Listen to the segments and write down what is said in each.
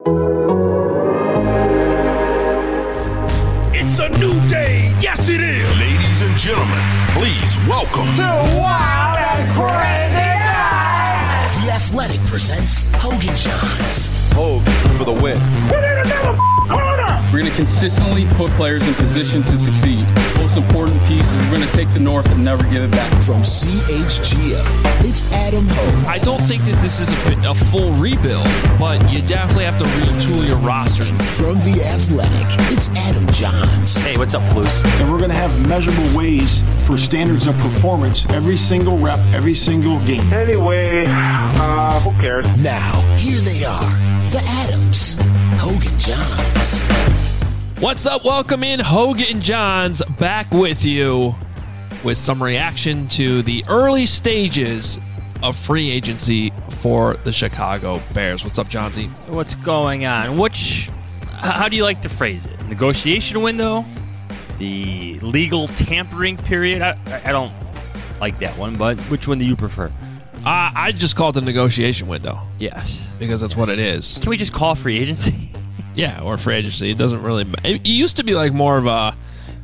It's a new day. Yes, it is. Ladies and gentlemen, please welcome to Wild and Crazy Guys. The Athletic presents Hogan Johns. Hogan for the win. Put in another corner. We're going to consistently put players in position to succeed. Most important piece is we're going to take the North and never give it back. From CHGO, it's Adam Hogan. I don't think that this is a full rebuild, but you definitely have to retool your roster. And from The Athletic, it's Adam Johns. Hey, what's up, Flus? And we're going to have measurable ways for standards of performance every single rep, every single game. Anyway, who cares? Now, here they are, the Adams, Hogan Johns. What's up? Welcome in, Hogan Johns, back with you with some reaction to the early stages of free agency for the Chicago Bears. What's up, Johnsy? What's going on? How do you like to phrase it? Negotiation window? The legal tampering period? I don't like that one, but which one do you prefer? I just call it the negotiation window. Yes. Because that's what it is. Can we just call free agency? Yeah, or free agency. It doesn't really... It used to be like more of a...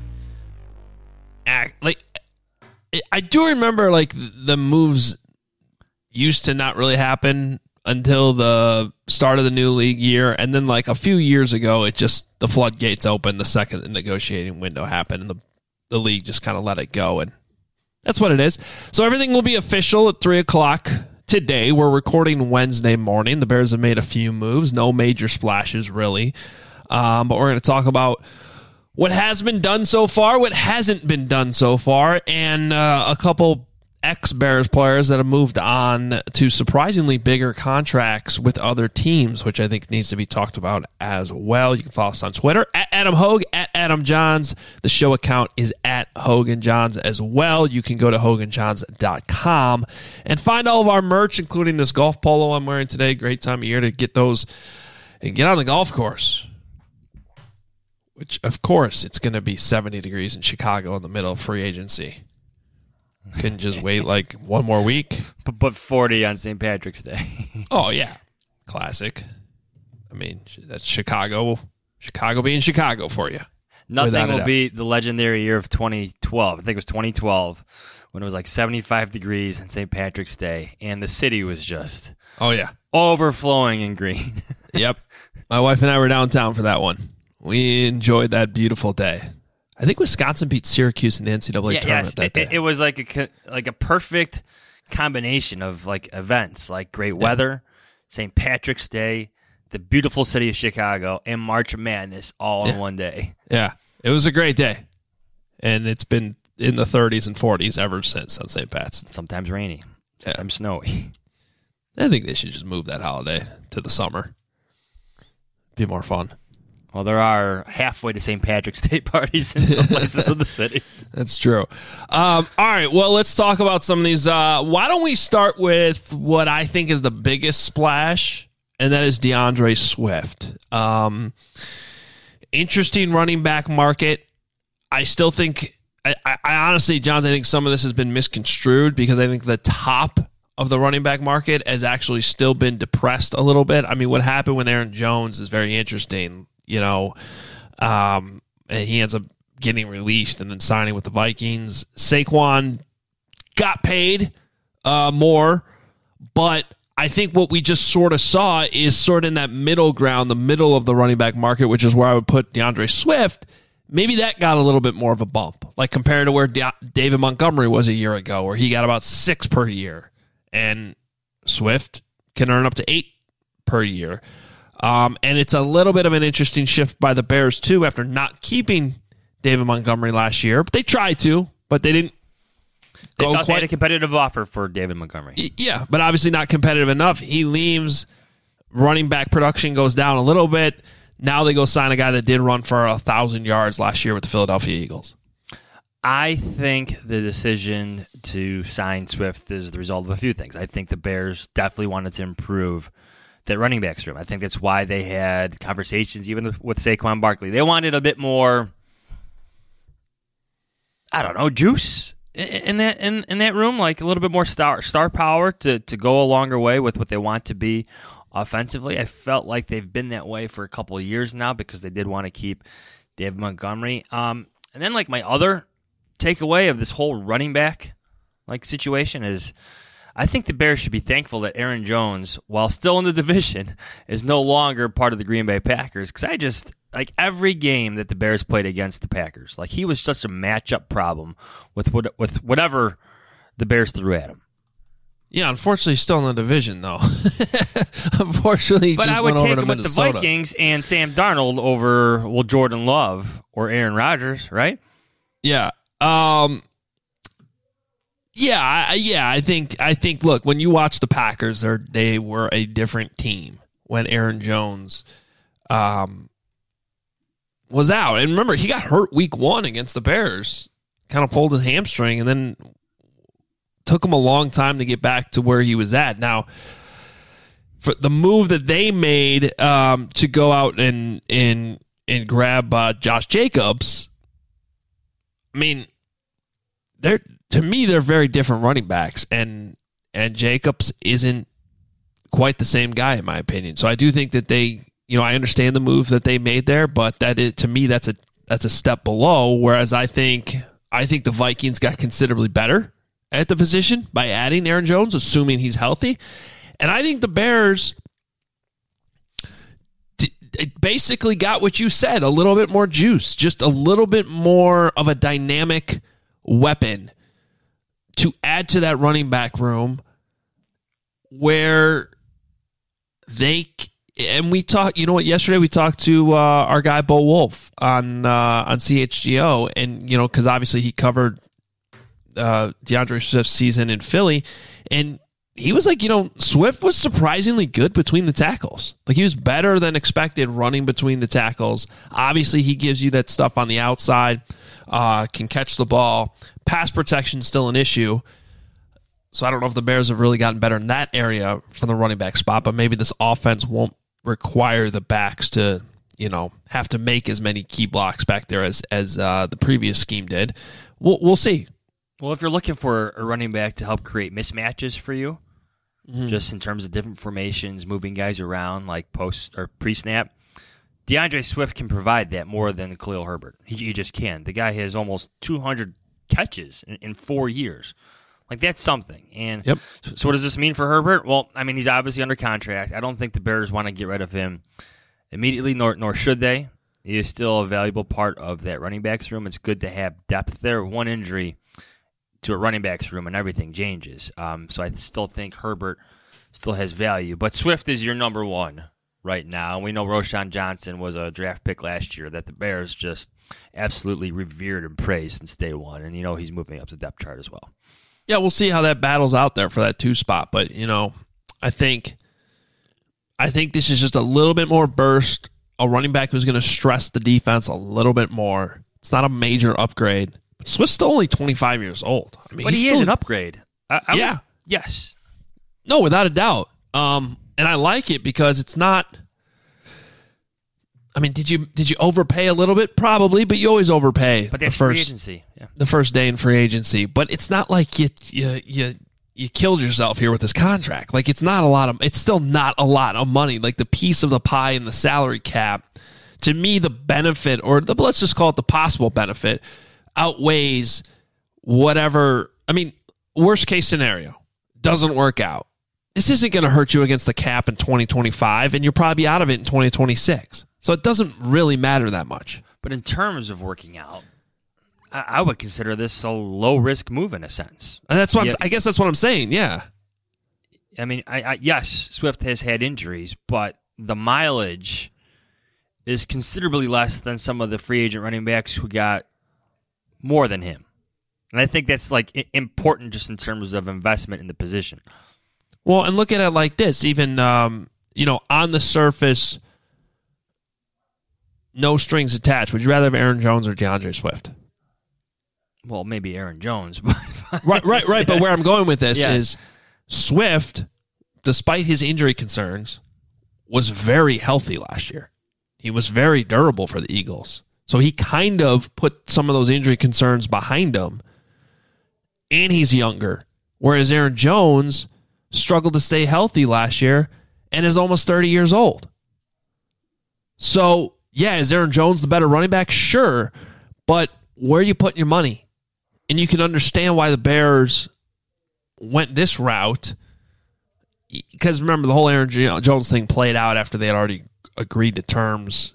I do remember like the moves used to not really happen until the start of the new league year, and then like a few years ago, the floodgates opened the second the negotiating window happened, and the league just kind of let it go, and that's what it is. So everything will be official at 3 o'clock today. We're recording Wednesday morning. The Bears have made a few moves, no major splashes really, but we're going to talk about what has been done so far, what hasn't been done so far, and a couple ex-Bears players that have moved on to surprisingly bigger contracts with other teams, which I think needs to be talked about as well. You can follow us on Twitter, at Adam Hogue, at Adam Johns. The show account is at Hogan Johns as well. You can go to HoganJohns.com and find all of our merch, including this golf polo I'm wearing today. Great time of year to get those and get on the golf course. Which, of course, it's going to be 70 degrees in Chicago in the middle of free agency. Couldn't just wait like one more week. But 40 on St. Patrick's Day. Oh, yeah. Classic. I mean, that's Chicago. Chicago being Chicago for you. Nothing will beat the legendary year of 2012. I think it was 2012 when it was like 75 degrees on St. Patrick's Day, and the city was just overflowing in green. Yep. My wife and I were downtown for that one. We enjoyed that beautiful day. I think Wisconsin beat Syracuse in the NCAA tournament that day. It was like a perfect combination of like events, like great weather, St. Patrick's Day, the beautiful city of Chicago, and March Madness all in one day. Yeah, it was a great day, and it's been in the 30s and 40s ever since on St. Pat's. Sometimes rainy, sometimes snowy. I think they should just move that holiday to the summer. Be more fun. Well, there are halfway to St. Patrick's Day parties in some places of the city. That's true. All right, well, let's talk about some of these. Why don't we start with what I think is the biggest splash, and that is DeAndre Swift. Interesting running back market. I still think, I honestly, Johns, I think some of this has been misconstrued because I think the top of the running back market has actually still been depressed a little bit. I mean, what happened with Aaron Jones is very interesting. You know, and he ends up getting released and then signing with the Vikings. Saquon got paid more, but I think what we just sort of saw is sort of in that middle ground, the middle of the running back market, which is where I would put DeAndre Swift. Maybe that got a little bit more of a bump, like compared to where David Montgomery was a year ago, where he got about 6 per year, and Swift can earn up to 8 per year. And it's a little bit of an interesting shift by the Bears, too, after not keeping David Montgomery last year. But they tried to, but they didn't go quite. They had a competitive offer for David Montgomery. Yeah, but obviously not competitive enough. He leaves. Running back production goes down a little bit. Now they go sign a guy that did run for 1,000 yards last year with the Philadelphia Eagles. I think the decision to sign Swift is the result of a few things. I think the Bears definitely wanted to improve that running backs room. I think that's why they had conversations even with Saquon Barkley. They wanted a bit more, I don't know, juice in that room, like a little bit more star power to go a longer way with what they want to be offensively. I felt like they've been that way for a couple of years now because they did want to keep David Montgomery. And then like my other takeaway of this whole running back like situation is I think the Bears should be thankful that Aaron Jones, while still in the division, is no longer part of the Green Bay Packers. Because I just, like every game that the Bears played against the Packers, like he was just a matchup problem with whatever the Bears threw at him. Yeah, unfortunately, he's still in the division, though. Unfortunately, but just I would went take over him to with Minnesota. the Vikings and Sam Darnold over, well, Jordan Love or Aaron Rodgers, right? Yeah. I think. Look, when you watch the Packers, they were a different team when Aaron Jones was out. And remember, he got hurt week 1 against the Bears, kind of pulled his hamstring, and then took him a long time to get back to where he was at. Now, for the move that they made to go out and grab Josh Jacobs, I mean, they're very different running backs, and Jacobs isn't quite the same guy in my opinion. So I do think that I understand the move that they made there, but to me that's a step below. Whereas I think the Vikings got considerably better at the position by adding Aaron Jones, assuming he's healthy, and I think the Bears basically got what you said, a little bit more juice, just a little bit more of a dynamic weapon to add to that running back room where we talked, yesterday we talked to our guy Bo Wolf on CHGO, and, because obviously he covered DeAndre Swift's season in Philly, and he was like, Swift was surprisingly good between the tackles. Like, he was better than expected running between the tackles. Obviously, he gives you that stuff on the outside, can catch the ball. Pass protection is still an issue. So I don't know if the Bears have really gotten better in that area from the running back spot, but maybe this offense won't require the backs to, have to make as many key blocks back there as the previous scheme did. We'll see. Well, if you're looking for a running back to help create mismatches for you, just in terms of different formations, moving guys around like post or pre-snap, DeAndre Swift can provide that more than Khalil Herbert. He just can. The guy has almost 200 catches in 4 years. Like, that's something. And yep. So what does this mean for Herbert? Well, I mean, he's obviously under contract. I don't think the Bears want to get rid of him immediately, nor should they. He is still a valuable part of that running backs room. It's good to have depth there. One injury to a running backs room and everything changes. So I still think Herbert still has value. But Swift is your number one right now. We know Roschon Johnson was a draft pick last year that the Bears just absolutely revered and praised since day one. And he's moving up the depth chart as well. Yeah, we'll see how that battles out there for that 2 spot. But, I think this is just a little bit more burst. A running back who's going to stress the defense a little bit more. It's not a major upgrade. But Swift's still only 25 years old. I mean, but he is an upgrade. Yeah. Yes. No, without a doubt. And I like it because it's not. I mean, did you overpay a little bit? Probably, but you always overpay. But that's free agency. Yeah. The first day in free agency. But it's not like you killed yourself here with this contract. Like, it's still not a lot of money. Like, the piece of the pie in the salary cap, to me, the benefit, or let's just call it the possible benefit, outweighs whatever. I mean, worst case scenario, doesn't work out. This isn't going to hurt you against the cap in 2025, and you'll probably be out of it in 2026. So it doesn't really matter that much. But in terms of working out, I would consider this a low-risk move in a sense. And that's what I guess that's what I'm saying, yeah. I mean, yes, Swift has had injuries, but the mileage is considerably less than some of the free agent running backs who got more than him. And I think that's important just in terms of investment in the position. Well, and look at it like this. Even, on the surface, no strings attached. Would you rather have Aaron Jones or DeAndre Swift? Well, maybe Aaron Jones. But right. But where I'm going with this is Swift, despite his injury concerns, was very healthy last year. He was very durable for the Eagles. So he kind of put some of those injury concerns behind him, and he's younger. Whereas Aaron Jones struggled to stay healthy last year, and is almost 30 years old. So, yeah, is Aaron Jones the better running back? Sure. But where are you putting your money? And you can understand why the Bears went this route. Because remember, the whole Aaron Jones thing played out after they had already agreed to terms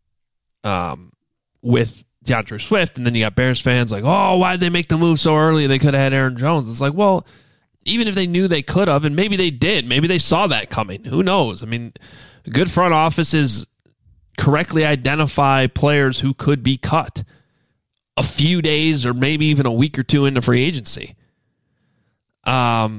with DeAndre Swift. And then you got Bears fans like, oh, why did they make the move so early? They could have had Aaron Jones. It's like, well, even if they knew they could have, and maybe they did, maybe they saw that coming. Who knows? I mean, good front offices correctly identify players who could be cut a few days or maybe even a week or two into free agency. And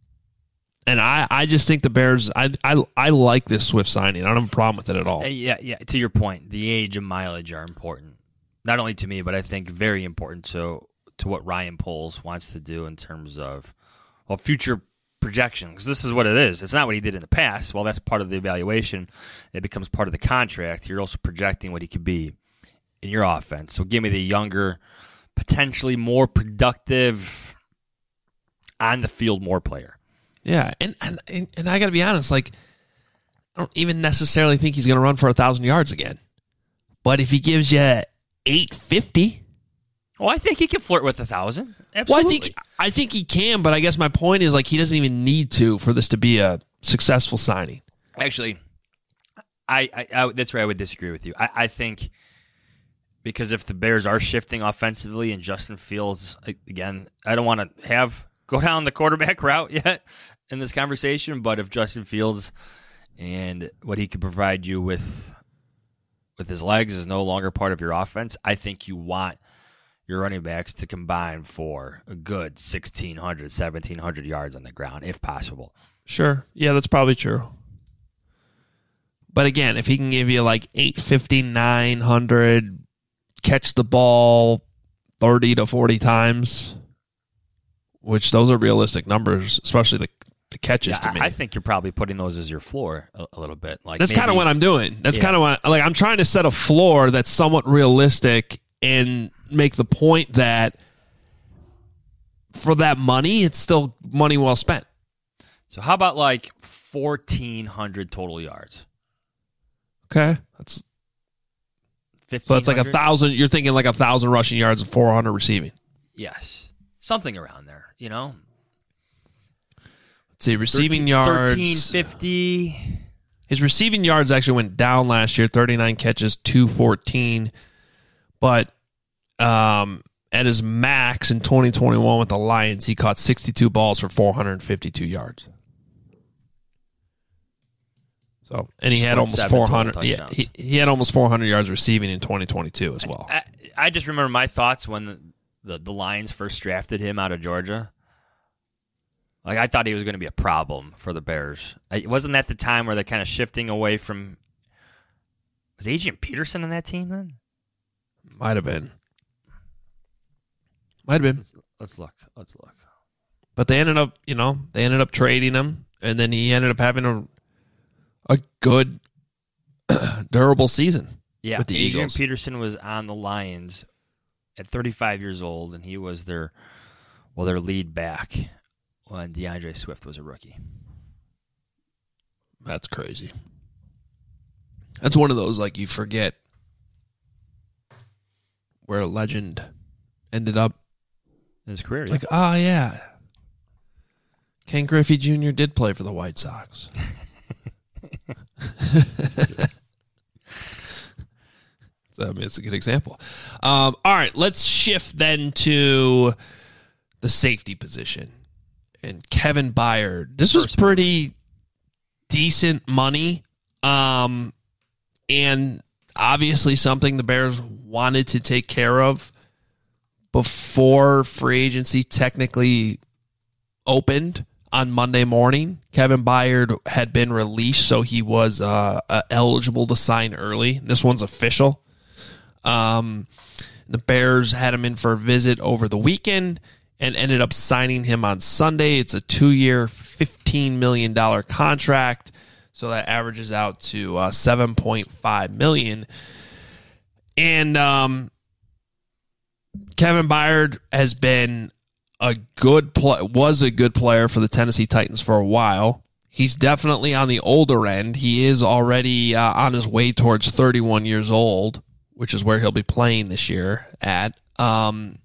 I just think the Bears, I like this Swift signing. I don't have a problem with it at all. Yeah. To your point, the age and mileage are important. Not only to me, but I think very important to what Ryan Poles wants to do in terms of future projection. Because this is what it is. It's not what he did in the past. Well, that's part of the evaluation. It becomes part of the contract. You're also projecting what he could be in your offense. So give me the younger, potentially more productive, on the field more player. Yeah, and I got to be honest, like, I don't even necessarily think he's going to run for 1,000 yards again. But if he gives you 850, well, I think he can flirt with 1,000. Absolutely. Well, I think he can, but I guess my point is, like, he doesn't even need to for this to be a successful signing. Actually, I that's where I would disagree with you. I think because if the Bears are shifting offensively and Justin Fields, again, I don't want to go down the quarterback route yet in this conversation, but if Justin Fields and what he could provide you with his legs is no longer part of your offense, I think you want your running backs to combine for a good 1,600, 1,700 yards on the ground, if possible. Sure. Yeah, that's probably true. But again, if he can give you like 850, 900, catch the ball 30 to 40 times, which those are realistic numbers, especially the catches to me. I think you're probably putting those as your floor a little bit. Like that's kind of what I'm doing. That's kind of what I'm trying to set a floor that's somewhat realistic and make the point that for that money, it's still money well spent. So how about like 1,400 total yards? Okay, that's 1,500. So it's like 1,000. You're thinking like 1,000 rushing yards and 400 receiving. Yes, something around there. You know. Let's see, receiving yards. 1,350. His receiving yards actually went down last year. 39 catches, 214. But at his max in 2021 with the Lions, he caught 62 balls for 452 yards. So, and he had almost 400. Yeah, he had almost 400 yards receiving in 2022 as well. I just remember my thoughts when the Lions first drafted him out of Georgia. Like, I thought he was going to be a problem for the Bears. Wasn't that the time where they're kind of shifting away from? Was Adrian Peterson on that team then? Might have been. Let's look. But they ended up trading him, and then he ended up having a good, durable season. Yeah, with the Adrian Eagles. Peterson was on the Lions at 35 years old, and he was their lead back when DeAndre Swift was a rookie. That's crazy. That's one of those, like, you forget where a legend ended up. In his career, it's like, yeah. Ken Griffey Jr. did play for the White Sox. It's a good example. All right, let's shift then to the safety position. And Kevin Byard. This was pretty decent money. And obviously something the Bears wanted to take care of before free agency technically opened on Monday morning. Kevin Byard had been released, so he was eligible to sign early. This one's official. The Bears had him in for a visit over the weekend and ended up signing him on Sunday. It's a 2-year, $15 million contract, so that averages out to $7.5 million. And Kevin Byard has been was a good player for the Tennessee Titans for a while. He's definitely on the older end. He is already on his way towards 31 years old, which is where he'll be playing this year at. And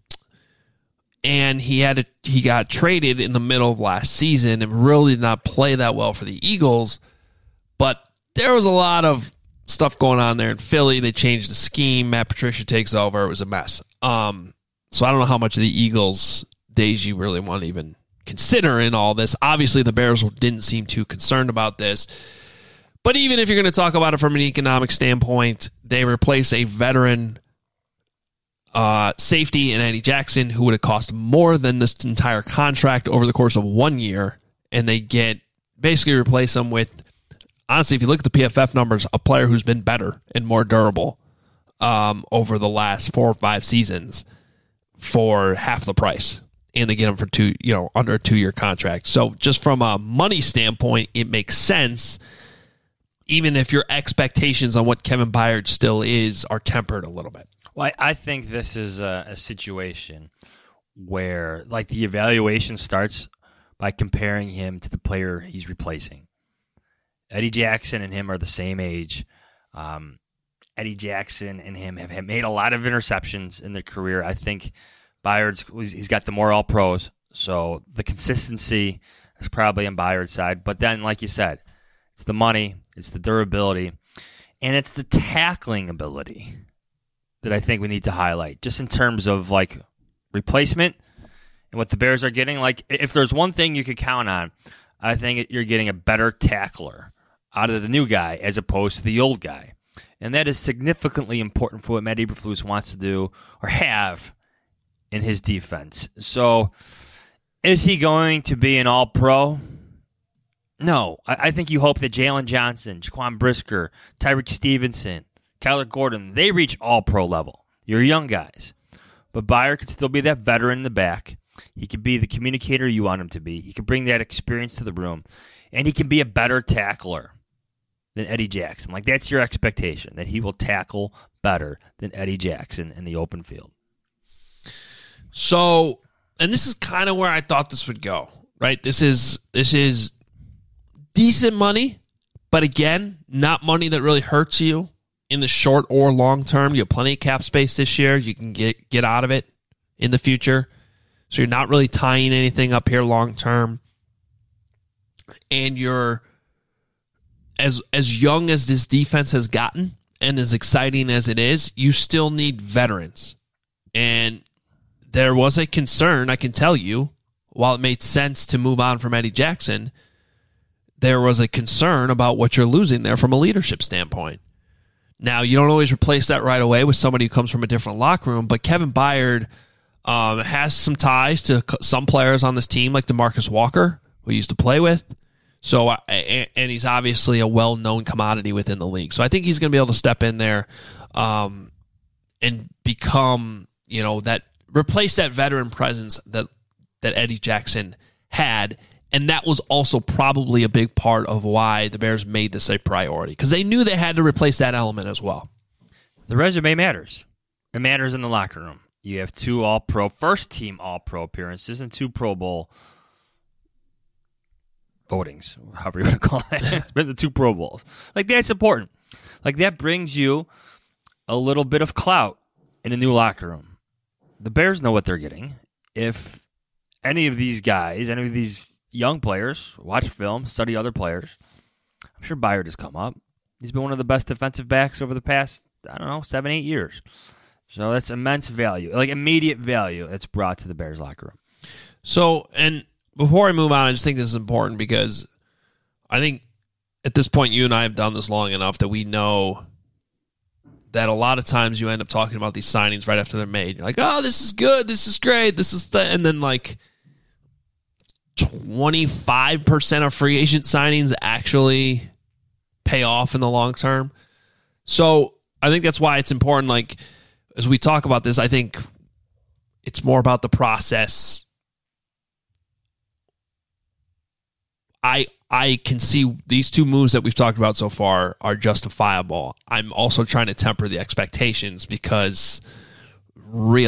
he got traded in the middle of last season and really did not play that well for the Eagles. But there was a lot of stuff going on there in Philly. They changed the scheme. Matt Patricia takes over. It was a mess. So I don't know how much of the Eagles' days you really want to even consider in all this. Obviously, the Bears didn't seem too concerned about this. But even if you're going to talk about it from an economic standpoint, they replace a veteran safety in Eddie Jackson, who would have cost more than this entire contract over the course of 1 year, and they basically replace him with, honestly, if you look at the PFF numbers, a player who's been better and more durable over the last 4 or 5 seasons for half the price, and they get him for under a 2-year contract. So just from a money standpoint, it makes sense, even if your expectations on what Kevin Byard still is are tempered a little bit. Well, I think this is a situation where, like, the evaluation starts by comparing him to the player he's replacing. Eddie Jackson and him are the same age. Eddie Jackson and him have made a lot of interceptions in their career. I think he's got the more all-pros, so the consistency is probably on Byard's side. But then, like you said, it's the money, it's the durability, and it's the tackling ability that I think we need to highlight, just in terms of, like, replacement and what the Bears are getting. Like, if there's one thing you could count on, I think you're getting a better tackler out of the new guy as opposed to the old guy. And that is significantly important for what Matt Eberflus wants to do or have in his defense. So, is he going to be an all-pro? No. I think you hope that Jalen Johnson, Jaquan Brisker, Tyreek Stevenson, Kyler Gordon, they reach all-pro level. You're young guys. But Byard could still be that veteran in the back. He could be the communicator you want him to be. He could bring that experience to the room. And he can be a better tackler than Eddie Jackson. Like, that's your expectation, that he will tackle better than Eddie Jackson in the open field. So, and this is kind of where I thought this would go, right? This is decent money, but again, not money that really hurts you in the short or long term. You have plenty of cap space this year. You can get out of it in the future. So you're not really tying anything up here long term. And you're as young as this defense has gotten and as exciting as it is, you still need veterans. And there was a concern, I can tell you, while it made sense to move on from Eddie Jackson, there was a concern about what you're losing there from a leadership standpoint. Now, you don't always replace that right away with somebody who comes from a different locker room, but Kevin Byard has some ties to some players on this team, like DeMarcus Walker, who he used to play with. So, and he's obviously a well-known commodity within the league. So I think he's going to be able to step in there and become, replace that veteran presence that Eddie Jackson had. And that was also probably a big part of why the Bears made this a priority, because they knew they had to replace that element as well. The resume matters. It matters in the locker room. You have 2 all-pro, first-team all-pro appearances and 2 Pro Bowl votings, however you want to call it. It's been the 2 Pro Bowls. Like, that's important. Like, that brings you a little bit of clout in a new locker room. The Bears know what they're getting. If any of these guys, any of these young players watch film, study other players, I'm sure Byard has come up. He's been one of the best defensive backs over the past, 7-8 years. So that's immense value, like immediate value that's brought to the Bears locker room. So, and before I move on, I just think this is important because I think at this point you and I have done this long enough that we know that a lot of times you end up talking about these signings right after they're made. You're like, oh, this is good, this is great, this is and then like 25% of free agent signings actually pay off in the long term. So I think that's why it's important, like, as we talk about this, I think it's more about the process. I can see these 2 moves that we've talked about so far are justifiable. I'm also trying to temper the expectations because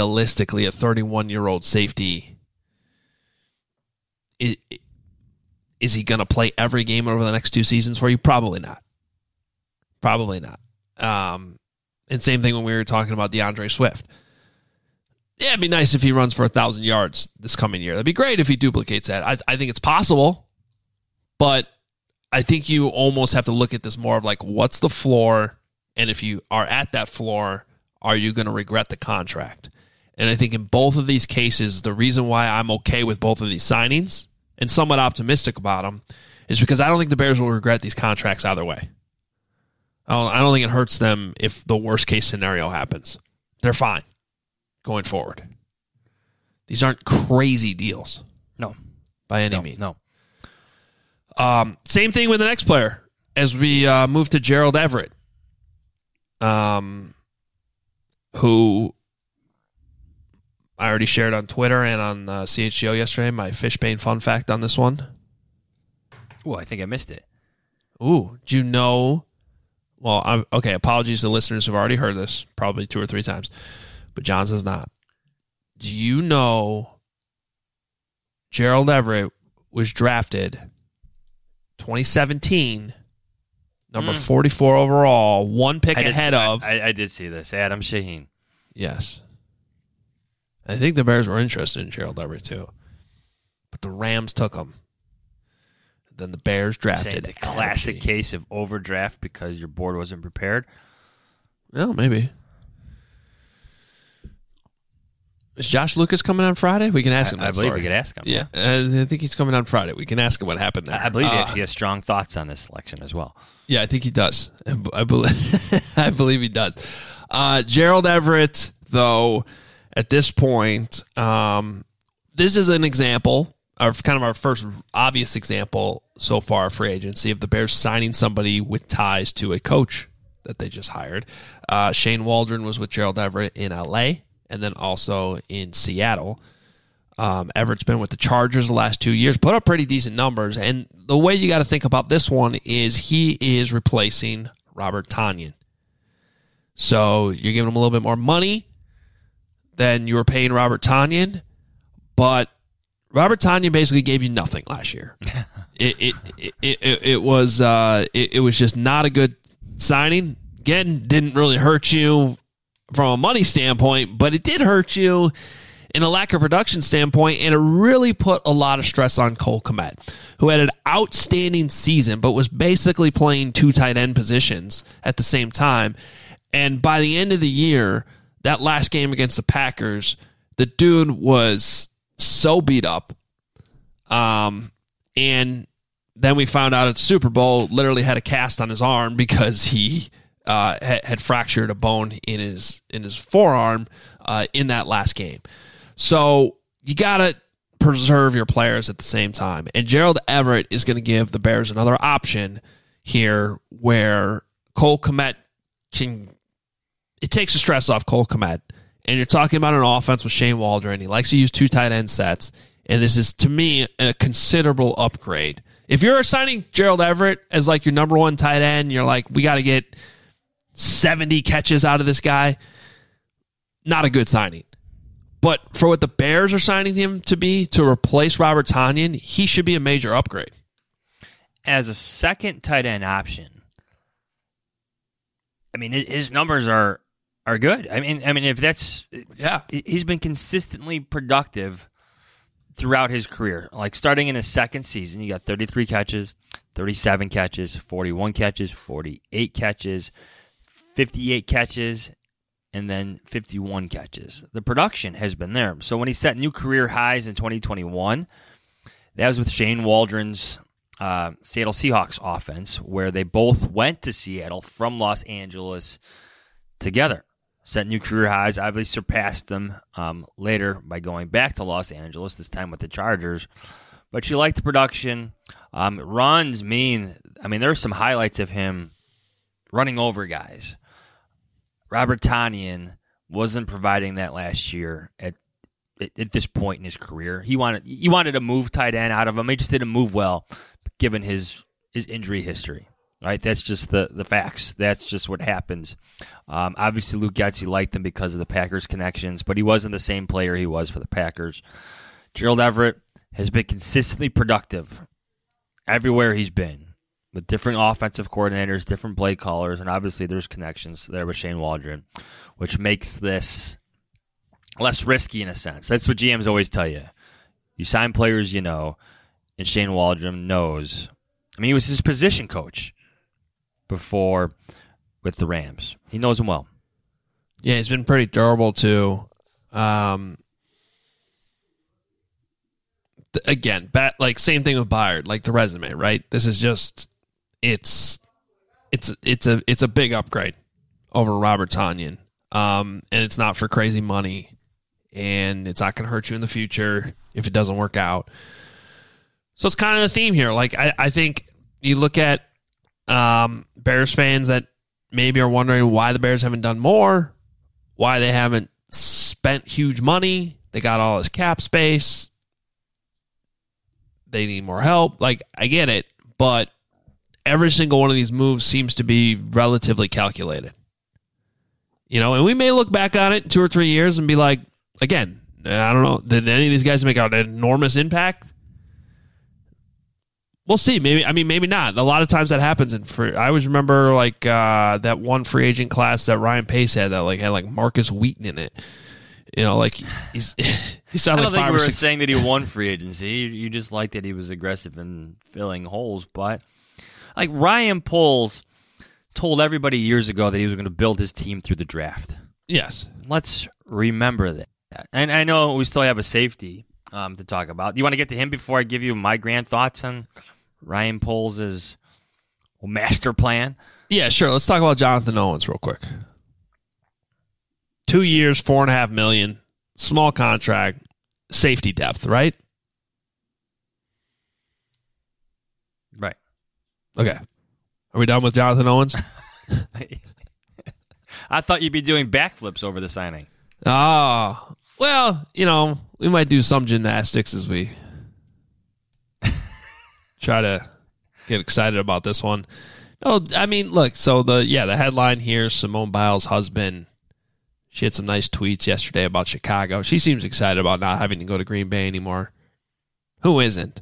realistically, a 31-year-old safety Is he going to play every game over the next 2 seasons for you? Probably not. Probably not. And same thing when we were talking about DeAndre Swift. Yeah, it'd be nice if he runs for 1,000 yards this coming year. That'd be great if he duplicates that. I think it's possible, but I think you almost have to look at this more of like, what's the floor? And if you are at that floor, are you going to regret the contract? And I think in both of these cases, the reason why I'm okay with both of these signings and somewhat optimistic about them is because I don't think the Bears will regret these contracts either way. I don't think it hurts them if the worst case scenario happens. They're fine going forward. These aren't crazy deals. No. By any means. No. Same thing with the next player as we move to Gerald Everett, who I already shared on Twitter and on CHGO yesterday, my Fishbane fun fact on this one. Oh, I think I missed it. Ooh, do you know? Well, okay, apologies to listeners who've already heard this, probably 2 or 3 times, but John says not. Do you know Gerald Everett was drafted 2017, number 44 overall, 1 pick ahead of... I did see this. Adam Shaheen. Yes. I think the Bears were interested in Gerald Everett too, but the Rams took him. Then the Bears drafted. It's a classic case of overdraft because your board wasn't prepared. Well, maybe. Is Josh Lucas coming on Friday? We can ask him. I believe we could ask him. Yeah, I think he's coming on Friday. We can ask him what happened there. I believe he actually has strong thoughts on this selection as well. Yeah, I think he does. I believe. I believe he does. Gerald Everett, though, at this point, this is an example. Kind of our first obvious example so far, free agency, of the Bears signing somebody with ties to a coach that they just hired. Shane Waldron was with Gerald Everett in L.A. and then also in Seattle. Everett's been with the Chargers the last 2 years, put up pretty decent numbers. And the way you got to think about this one is he is replacing Robert Tonyan. So you're giving him a little bit more money than you were paying Robert Tonyan, but Robert Tonyan basically gave you nothing last year. It was just not a good signing. Again, didn't really hurt you from a money standpoint, but it did hurt you in a lack of production standpoint, and it really put a lot of stress on Cole Kmet, who had an outstanding season, but was basically playing 2 tight end positions at the same time. And by the end of the year, that last game against the Packers, the dude was so beat up. And then we found out at Super Bowl, literally had a cast on his arm because he had fractured a bone in his forearm in that last game. So you got to preserve your players at the same time. And Gerald Everett is going to give the Bears another option here where Cole Kmet it takes the stress off Cole Kmet. And you're talking about an offense with Shane Waldron. He likes to use 2 tight end sets. And this is, to me, a considerable upgrade. If you're assigning Gerald Everett as like your number 1 tight end, you're like, we got to get 70 catches out of this guy. Not a good signing. But for what the Bears are signing him to be, to replace Robert Tonyan, he should be a major upgrade. As a second tight end option, I mean, his numbers are good. I mean, if that's he's been consistently productive throughout his career. Like starting in his second season, he got 33 catches, 37 catches, 41 catches, 48 catches, 58 catches, and then 51 catches. The production has been there. So when he set new career highs in 2021, that was with Shane Waldron's Seattle Seahawks offense, where they both went to Seattle from Los Angeles together. Set new career highs, obviously surpassed them later by going back to Los Angeles, this time with the Chargers. But you like the production. Runs mean, there are some highlights of him running over guys. Robert Tonyan wasn't providing that last year at this point in his career. He wanted to move tight end out of him. He just didn't move well, given his injury history. Right, that's just the facts. That's just what happens. Obviously, Luke Getsy liked him because of the Packers connections, but he wasn't the same player he was for the Packers. Gerald Everett has been consistently productive everywhere he's been, with different offensive coordinators, different play callers, and obviously there's connections there with Shane Waldron, which makes this less risky in a sense. That's what GMs always tell you. You sign players you know, and Shane Waldron knows. I mean, he was his position coach before with the Rams. He knows them well. Yeah, he's been pretty durable too. Again, like same thing with Byard, like the resume, right? This is just it's a big upgrade over Robert Tonyan, and it's not for crazy money, and it's not going to hurt you in the future if it doesn't work out. So it's kind of the theme here. Like I think you look at Bears fans that maybe are wondering why the Bears haven't done more, why they haven't spent huge money. They got all this cap space. They need more help. Like, I get it, but every single one of these moves seems to be relatively calculated. You know, and we may look back on it in 2 or 3 years and be like, again, I don't know, did any of these guys make an enormous impact? We'll see. Maybe not. A lot of times that happens. I always remember like that one free agent class that Ryan Pace had that had Marcus Wheaton in it. You know, like he sounded like 5 or 6. I don't think we were saying that he won free agency. You just liked that he was aggressive in filling holes. But like Ryan Poles told everybody years ago that he was going to build his team through the draft. Yes. Let's remember that. And I know we still have a safety to talk about. Do you want to get to him before I give you my grand thoughts on Ryan Poles' master plan? Yeah, sure. Let's talk about Jonathan Owens real quick. 2 years, $4.5 million, small contract, safety depth, right? Right. Okay. Are we done with Jonathan Owens? I thought you'd be doing backflips over the signing. Oh, well, we might do some gymnastics as we try to get excited about this one. No, I mean, look, so the headline here, Simone Biles' husband, she had some nice tweets yesterday about Chicago. She seems excited about not having to go to Green Bay anymore. Who isn't?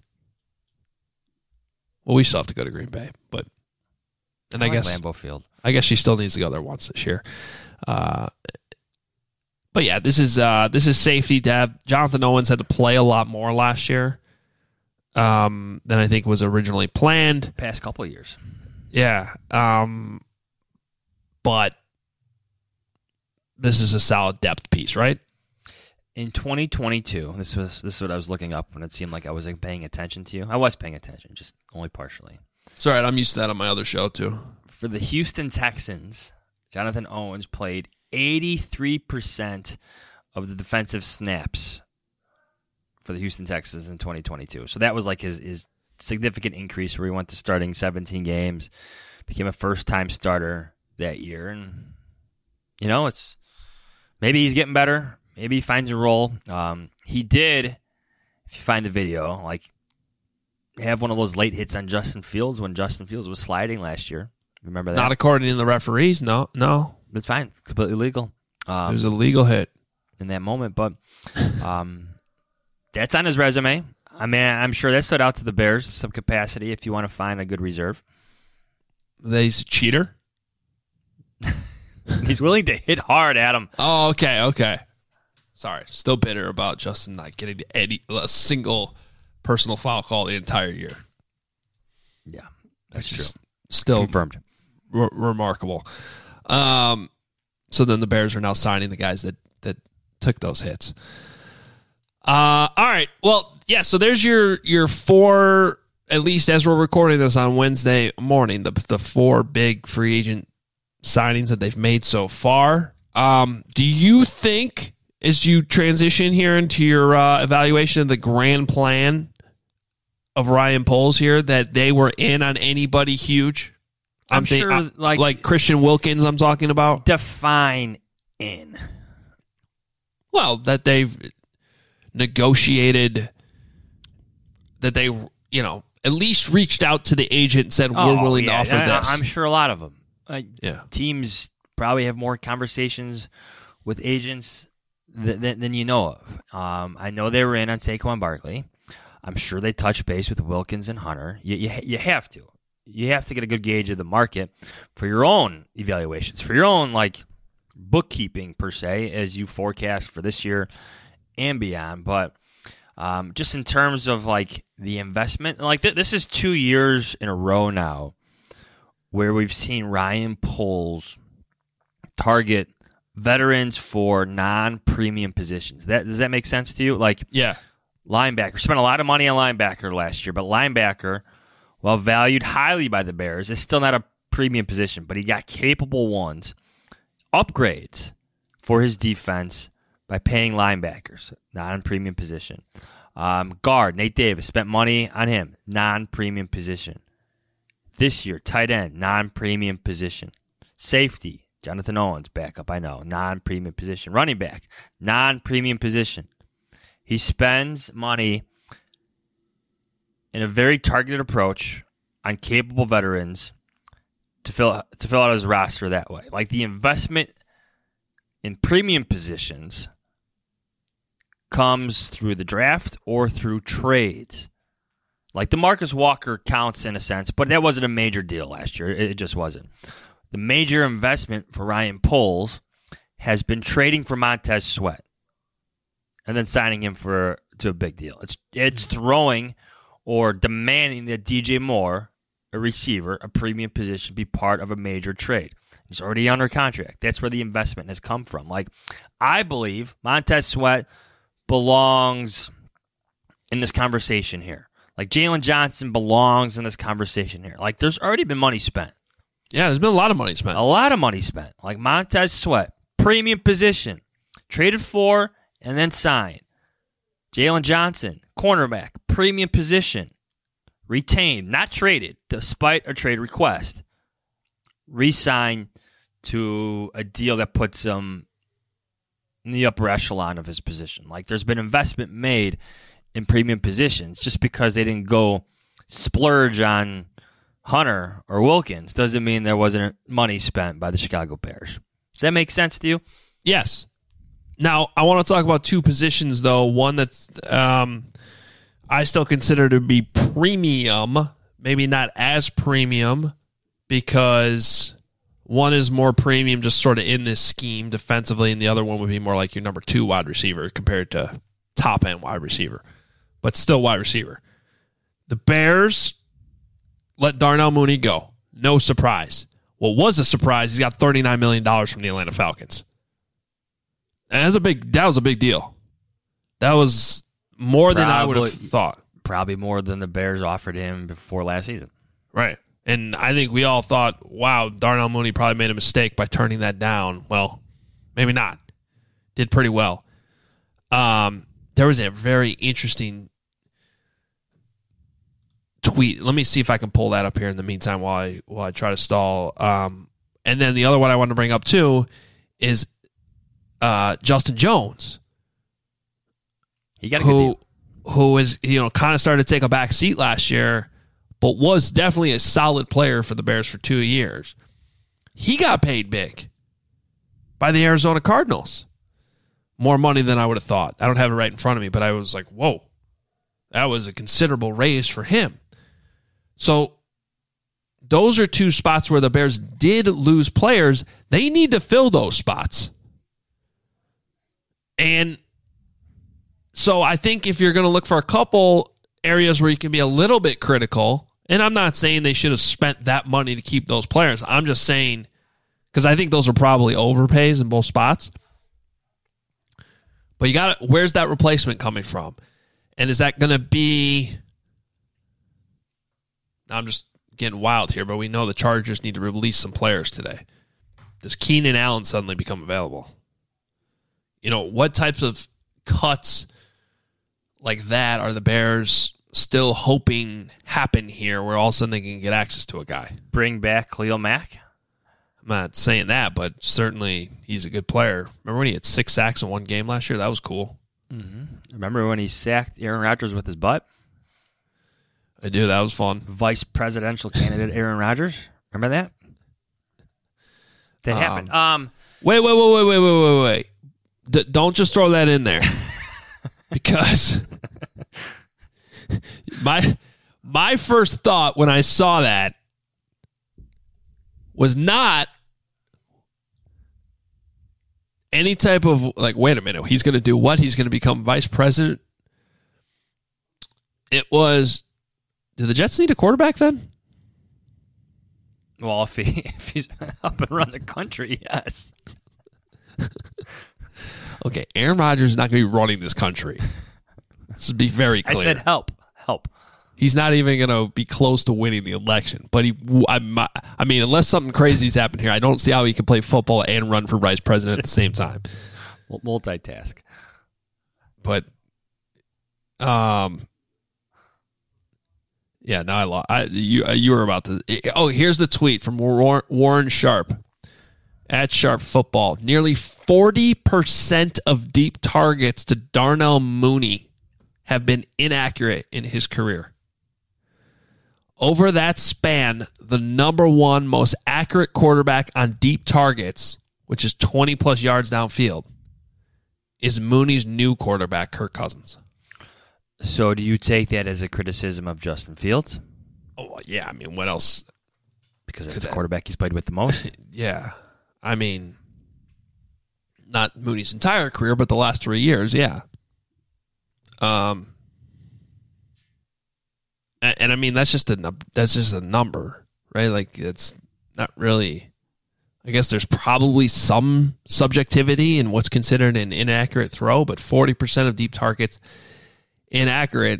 Well, we still have to go to Green Bay, I guess Lambeau Field. I guess she still needs to go there once this year. But yeah, this is safety depth. Jonathan Owens had to play a lot more last year than I think was originally planned. Past couple of years. Yeah. But this is a solid depth piece, right? In 2022, this is what I was looking up when it seemed like I wasn't paying attention to you. I was paying attention, just only partially. It's all right. I'm used to that on my other show, too. For the Houston Texans, Jonathan Owens played 83% of the defensive snaps for the Houston Texans in 2022. So that was like his significant increase where he went to starting 17 games, became a first-time starter that year. And, it's maybe he's getting better. Maybe he finds a role. He did, if you find the video, have one of those late hits on Justin Fields when Justin Fields was sliding last year. Remember that? Not according to the referees. No. It's fine. It's completely legal. It was a legal hit in that moment, but that's on his resume. I mean, I'm sure that stood out to the Bears in some capacity if you want to find a good reserve. He's a cheater? He's willing to hit hard, Adam. Oh, okay. Sorry. Still bitter about Justin not getting a single personal foul call the entire year. Yeah, that's true. Still confirmed. Remarkable. So then the Bears are now signing the guys that took those hits. All right. Well, yeah, so there's your 4, at least as we're recording this on Wednesday morning, the 4 big free agent signings that they've made so far. Do you think, as you transition here into your evaluation of the grand plan of Ryan Poles here, that they were in on anybody huge? I'm sure, like Christian Wilkins I'm talking about. Define in. Well, that they've negotiated, that they, at least reached out to the agent and said, we're willing to offer this. I'm sure a lot of them. Yeah. Teams probably have more conversations with agents than you know of. I know they were in on Saquon Barkley. I'm sure they touch base with Wilkins and Hunter. You have to. You have to get a good gauge of the market for your own evaluations, for your own bookkeeping per se, as you forecast for this year and beyond. But just in terms of the investment, this is 2 years in a row now where we've seen Ryan Poles target veterans for non-premium positions. Does that make sense to you? Yeah. Linebacker. Spent a lot of money on linebacker last year, but linebacker, while valued highly by the Bears, is still not a premium position, but he got capable ones. Upgrades for his defense by paying linebackers, non-premium position. Guard, Nate Davis, spent money on him, non-premium position. This year, tight end, non-premium position. Safety, Jonathan Owens, backup, I know, non-premium position. Running back, non-premium position. He spends money in a very targeted approach on capable veterans to fill out his roster that way. The investment in premium positions comes through the draft or through trades. The Marcus Walker counts in a sense, but that wasn't a major deal last year. It just wasn't. The major investment for Ryan Poles has been trading for Montez Sweat and then signing him to a big deal. It's throwing or demanding that DJ Moore, a receiver, a premium position, be part of a major trade. He's already under contract. That's where the investment has come from. I believe Montez Sweat belongs in this conversation here. Jalen Johnson belongs in this conversation here. There's already been money spent. Yeah, there's been a lot of money spent. A lot of money spent. Montez Sweat, premium position, traded for and then signed. Jalen Johnson, cornerback, premium position, retained, not traded, despite a trade request. Re-signed to a deal that puts him in the upper echelon of his position. There's been investment made in premium positions. Just because they didn't go splurge on Hunter or Wilkins doesn't mean there wasn't money spent by the Chicago Bears. Does that make sense to you? Yes. Now, I want to talk about two positions, though. One that's I still consider to be premium, maybe not as premium, because one is more premium just sort of in this scheme defensively, and the other one would be more like your number 2 wide receiver compared to top-end wide receiver, but still wide receiver. The Bears let Darnell Mooney go. No surprise. What was a surprise, he's got $39 million from the Atlanta Falcons. And that was a big deal. That was more than I would have thought. Probably more than the Bears offered him before last season. Right. And I think we all thought, wow, Darnell Mooney probably made a mistake by turning that down. Well, maybe not. Did pretty well. There was a very interesting tweet. Let me see if I can pull that up here in the meantime while I try to stall. And then the other one I want to bring up too is Justin Jones. He got a good deal. Who is kind of started to take a back seat last year, but was definitely a solid player for the Bears for 2 years. He got paid big by the Arizona Cardinals. More money than I would have thought. I don't have it right in front of me, but I was like, whoa, that was a considerable raise for him. So those are two spots where the Bears did lose players. They need to fill those spots. And so I think if you're going to look for a couple areas where you can be a little bit critical, and I'm not saying they should have spent that money to keep those players. I'm just saying, because I think those are probably overpays in both spots. But where's that replacement coming from? And is that going to be, I'm just getting wild here, but we know the Chargers need to release some players today. Does Keenan Allen suddenly become available? What types of cuts like that are the Bears still hoping happen here where all of a sudden they can get access to a guy? Bring back Khalil Mack? I'm not saying that, but certainly he's a good player. Remember when he had 6 sacks in one game last year? That was cool. Mm-hmm. Remember when he sacked Aaron Rodgers with his butt? I do. That was fun. Vice presidential candidate Aaron Rodgers. Remember that? That happened. Wait. Don't just throw that in there. because My first thought when I saw that was not any type of like, wait a minute, he's going to do what? He's going to become vice president? It was, do the Jets need a quarterback then? Well, if he's up and run the country, yes. Okay, Aaron Rodgers is not going to be running this country. Let's be very clear. I said help. He's not even going to be close to winning the election. But I mean, unless something crazy's happened here, I don't see how he can play football and run for vice president at the same time. Multitask. But, yeah, no, I lost. You were about to. Oh, here's the tweet from Warren Sharp at Sharp Football. Nearly 40% of deep targets to Darnell Mooney have been inaccurate in his career. Over that span, the number one most accurate quarterback on deep targets, which is 20 plus yards downfield, is Mooney's new quarterback, Kirk Cousins. So do you take that as a criticism of Justin Fields? Oh, yeah. I mean, what else? Because that's the quarterback he's played with the most? Yeah. I mean, not Mooney's entire career, but the last 3 years, yeah. And I mean, that's just a number, right? Like, it's not really. I guess there's probably some subjectivity in what's considered an inaccurate throw, but 40% of deep targets inaccurate.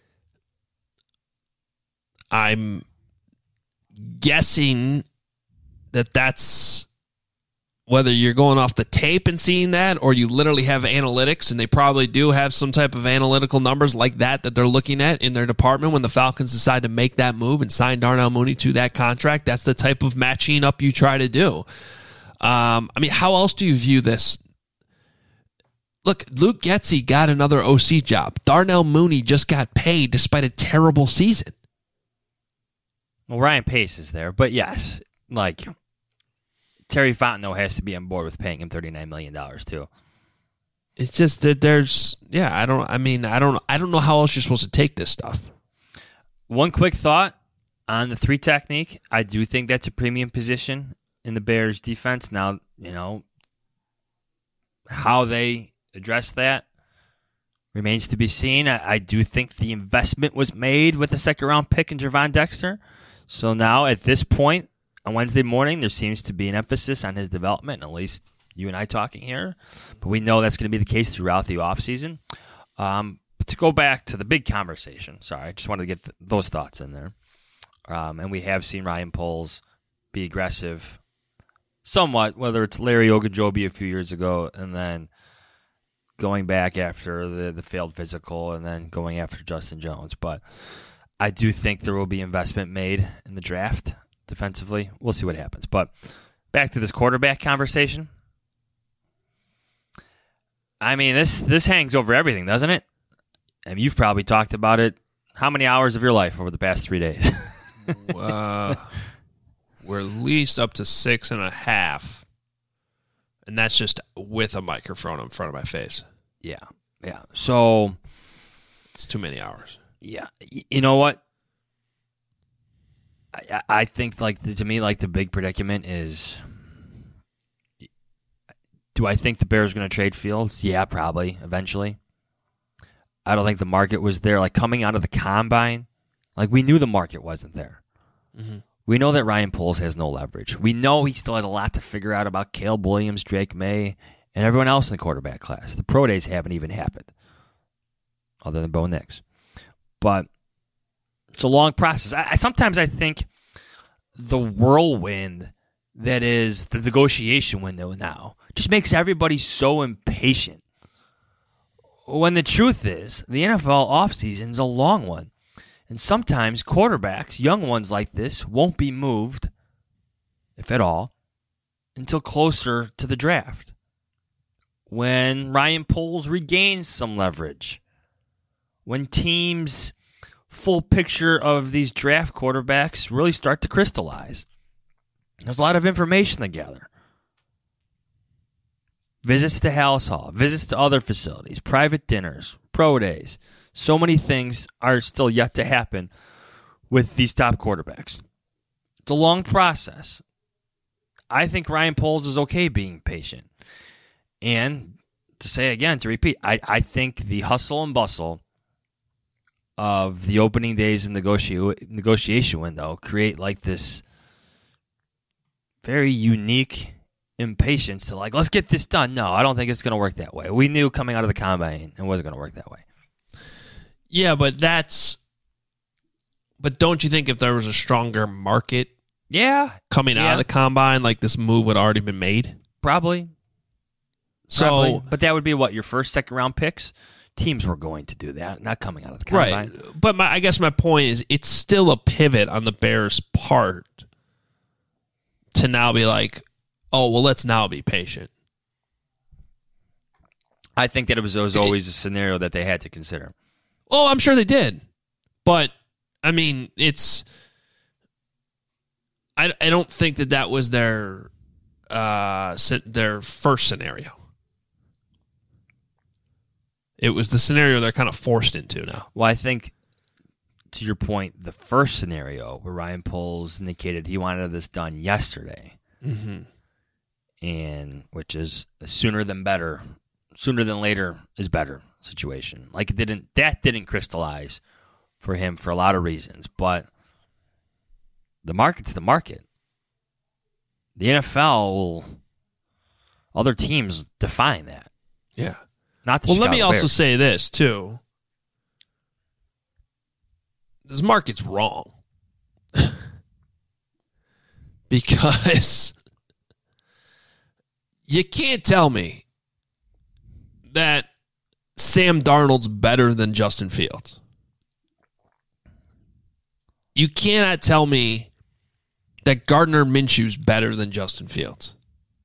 I'm guessing that's whether you're going off the tape and seeing that, or you literally have analytics, and they probably do have some type of analytical numbers like that they're looking at in their department when the Falcons decide to make that move and sign Darnell Mooney to that contract. That's the type of matching up you try to do. I mean, how else do you view this? Look, Luke Getsy got another OC job. Darnell Mooney just got paid despite a terrible season. Well, Ryan Pace is there, but yes, like Terry Fontenot has to be on board with paying him $39 million too. It's just that there's, yeah, I don't know how else you're supposed to take this stuff. One quick thought on the 3 technique. I do think that's a premium position in the Bears defense. Now, you know, how they address that remains to be seen. I do think the investment was made with the 2nd round pick in Gervon Dexter. So now at this point on Wednesday morning, there seems to be an emphasis on his development, at least you and I talking here. But we know that's going to be the case throughout the offseason. But to go back to the big conversation, sorry, I just wanted to get those thoughts in there. And we have seen Ryan Poles be aggressive somewhat, whether it's Larry Ogunjobi a few years ago and then going back after the failed physical and then going after Justin Jones. But I do think there will be investment made in the draft defensively. We'll see what happens. But back to this quarterback conversation. I mean, this hangs over everything, doesn't it? I mean, you've probably talked about it. How many hours of your life over the past 3 days? We're at least up to 6.5. And that's just with a microphone in front of my face. Yeah. So it's too many hours. Yeah. You know what? I think, to me, the big predicament is, do I think the Bears are going to trade Fields? Yeah, probably, eventually. I don't think the market was there. Coming out of the combine, we knew the market wasn't there. Mm-hmm. We know that Ryan Poles has no leverage. We know he still has a lot to figure out about Caleb Williams, Drake May, and everyone else in the quarterback class. The pro days haven't even happened, other than Bo Nix. But it's a long process. Sometimes I think the whirlwind that is the negotiation window now just makes everybody so impatient. When the truth is, the NFL offseason is a long one. And sometimes quarterbacks, young ones like this, won't be moved, if at all, until closer to the draft. When Ryan Poles regains some leverage. When teams' full picture of these draft quarterbacks really start to crystallize. There's a lot of information to gather. Visits to Hallis Hall, visits to other facilities, private dinners, pro days, So many things are still yet to happen with these top quarterbacks. It's a long process. I think Ryan Poles is okay being patient. And to say again, to repeat, I think the hustle and bustle of the opening days and negotiation window create like this very unique impatience to like, let's get this done. No, I don't think it's going to work that way. We knew coming out of the combine it wasn't going to work that way. Yeah, but don't you think if there was a stronger market coming out of the combine, like this move would already been made? Probably. But that would be what, your first, second round picks? Teams were going to do that, not coming out of the combine. Right. But I guess my point is it's still a pivot on the Bears' part to now be like, oh, well, let's now be patient. I think that it was always a scenario that they had to consider. Oh, I'm sure they did. But, I mean, I don't think that was their first scenario. It was the scenario they're kind of forced into now. Well, I think, to your point, the first scenario where Ryan Poles indicated he wanted this done yesterday, and which is sooner than later is better situation. Like that didn't crystallize for him for a lot of reasons, but the market's the market. The NFL other teams define that. Yeah. Not the well, Chicago let me also Bears. say this, too. This market's wrong. Because you can't tell me that Sam Darnold's better than Justin Fields. You cannot tell me that Gardner Minshew's better than Justin Fields.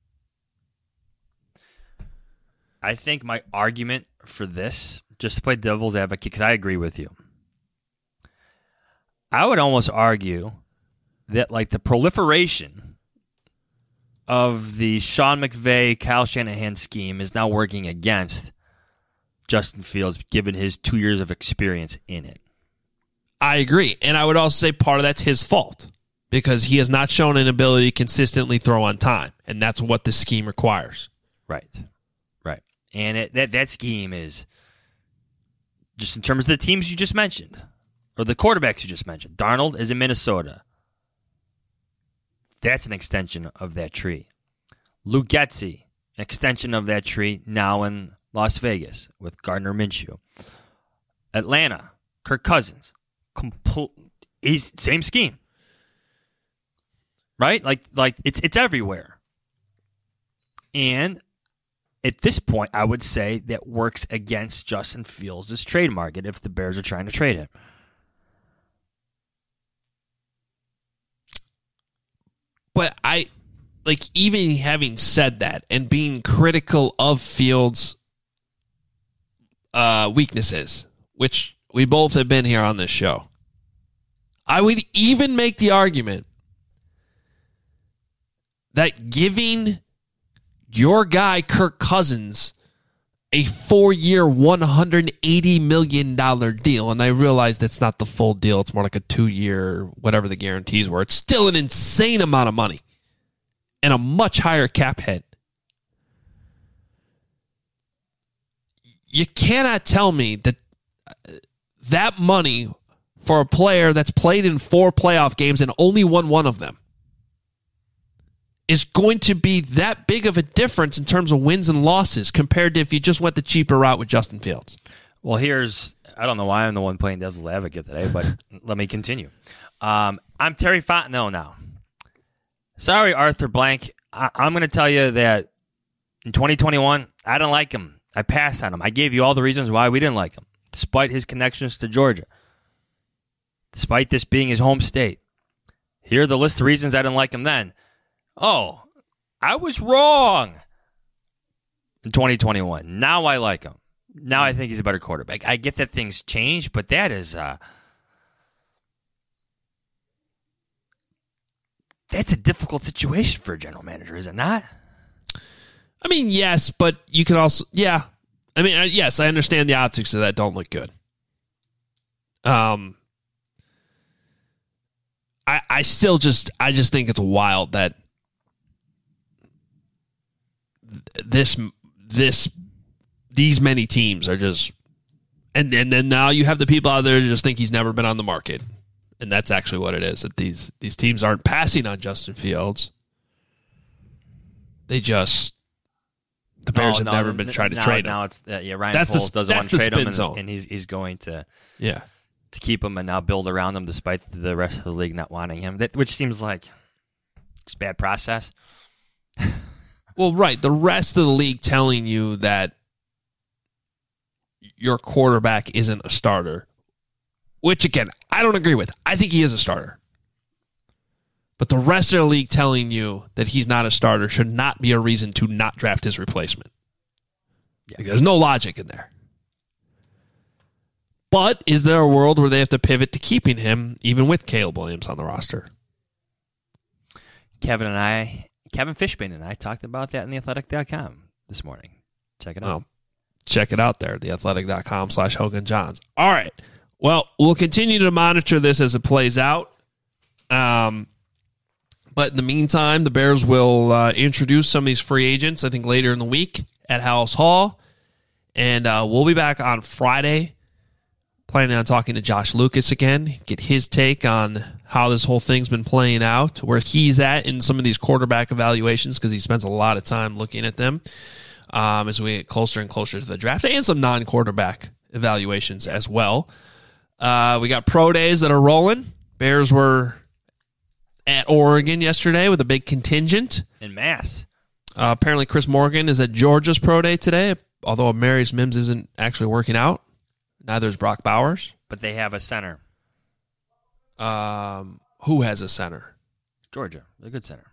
I think my argument for this, just to play devil's advocate, because I agree with you, I would almost argue that like the proliferation of the Sean McVay, Kyle Shanahan scheme is now working against Justin Fields, given his 2 years of experience in it. I agree. And I would also say part of that's his fault because he has not shown an ability to consistently throw on time. And that's what the scheme requires. Right. And that scheme is, just in terms of the teams you just mentioned, or the quarterbacks you just mentioned. Darnold is in Minnesota. That's an extension of that tree. Luke Getsy, an extension of that tree, now in Las Vegas with Gardner Minshew. Atlanta, Kirk Cousins, same scheme, right? Like it's everywhere. And at this point, I would say that works against Justin Fields' trade market if the Bears are trying to trade him. But even having said that and being critical of Fields' weaknesses, which we both have been here on this show, I would even make the argument that giving your guy, Kirk Cousins, a 4-year, $180 million deal. And I realize that's not the full deal. It's more like a 2-year, whatever the guarantees were. It's still an insane amount of money and a much higher cap hit. You cannot tell me that money for a player that's played in 4 playoff games and only won one of them is going to be that big of a difference in terms of wins and losses compared to if you just went the cheaper route with Justin Fields. Well, I don't know why I'm the one playing devil's advocate today, but let me continue. I'm Terry Fontenot now. Sorry, Arthur Blank. I'm going to tell you that in 2021, I didn't like him. I passed on him. I gave you all the reasons why we didn't like him, despite his connections to Georgia, despite this being his home state. Here are the list of reasons I didn't like him then. Oh, I was wrong in 2021. Now I like him. Now I think he's a better quarterback. I get that things change, but that is that's a difficult situation for a general manager, is it not? I mean, yes, but you can also, yeah. I mean, yes, I understand the optics of that don't look good. I just think it's wild that these many teams are just, and then now you have the people out there who just think he's never been on the market, and that's actually what it is. That these teams aren't passing on Justin Fields. The Bears have never been trying to trade him. Now it's Ryan Poles doesn't want to trade him, and he's going to keep him and now build around him despite the rest of the league not wanting him, which seems like it's a bad process. Well, right. The rest of the league telling you that your quarterback isn't a starter, which, again, I don't agree with. I think he is a starter. But the rest of the league telling you that he's not a starter should not be a reason to not draft his replacement. Yeah. Like, there's no logic in there. But is there a world where they have to pivot to keeping him, even with Caleb Williams on the roster? Kevin Fishbane and I talked about that in theathletic.com this morning. Check it out. Well, check it out there, theathletic.com/HoganJohns. All right. Well, we'll continue to monitor this as it plays out. But in the meantime, the Bears will introduce some of these free agents, I think, later in the week at House Hall. And we'll be back on Friday, planning on talking to Josh Lucas again, get his take on how this whole thing's been playing out, where he's at in some of these quarterback evaluations, because he spends a lot of time looking at them as we get closer and closer to the draft, and some non-quarterback evaluations as well. We got pro days that are rolling. Bears were at Oregon yesterday with a big contingent. In mass. Apparently Chris Morgan is at Georgia's pro day today, although Marius Mims isn't actually working out. Neither is Brock Bowers. But they have a center. Who has a center? Georgia. They're a good center.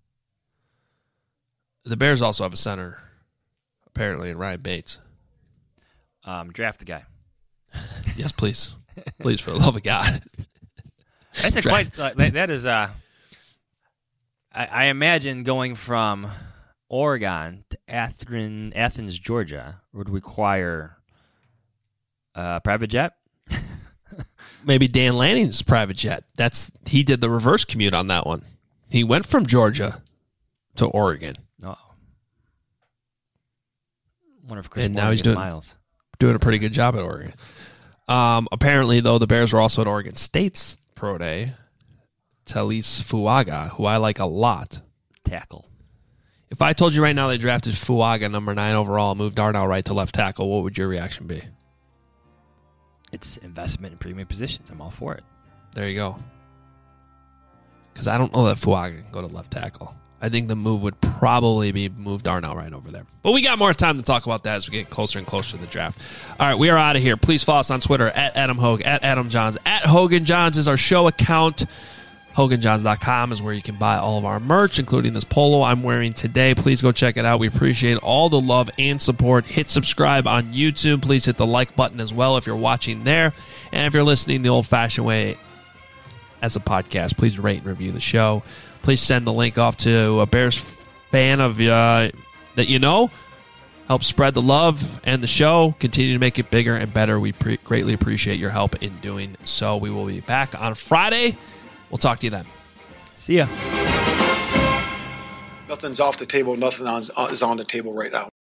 The Bears also have a center, apparently, in Ryan Bates. Draft the guy. Yes, please. Please, for the love of God. That's a quite. That is. I imagine going from Oregon to Athens, Georgia, would require a private jet. Maybe Dan Lanning's private jet. He did the reverse commute on that one. He went from Georgia to Oregon. Oh. Wonder if Chris now he's doing a pretty good job at Oregon. Apparently, though, the Bears were also at Oregon State's pro day. Talis Fuaga, who I like a lot. Tackle. If I told you right now they drafted Fuaga, number 9 overall, moved Darnell Wright to left tackle, what would your reaction be? It's investment in premium positions. I'm all for it. There you go. Because I don't know that Fuaga can go to left tackle. I think the move would probably be move Darnell Wright over there. But we got more time to talk about that as we get closer and closer to the draft. All right, we are out of here. Please follow us on Twitter at Adam Hogue, at Adam Johns, at Hogan Johns is our show account. HoganJohns.com is where you can buy all of our merch, including this polo I'm wearing today. Please go check it out. We appreciate all the love and support. Hit subscribe on YouTube. Please hit the like button as well if you're watching there. And if you're listening the old-fashioned way as a podcast, please rate and review the show. Please send the link off to a Bears fan of that you know. Help spread the love and the show. Continue to make it bigger and better. We greatly appreciate your help in doing so. We will be back on Friday. We'll talk to you then. See ya. Nothing's off the table. Nothing is on the table right now.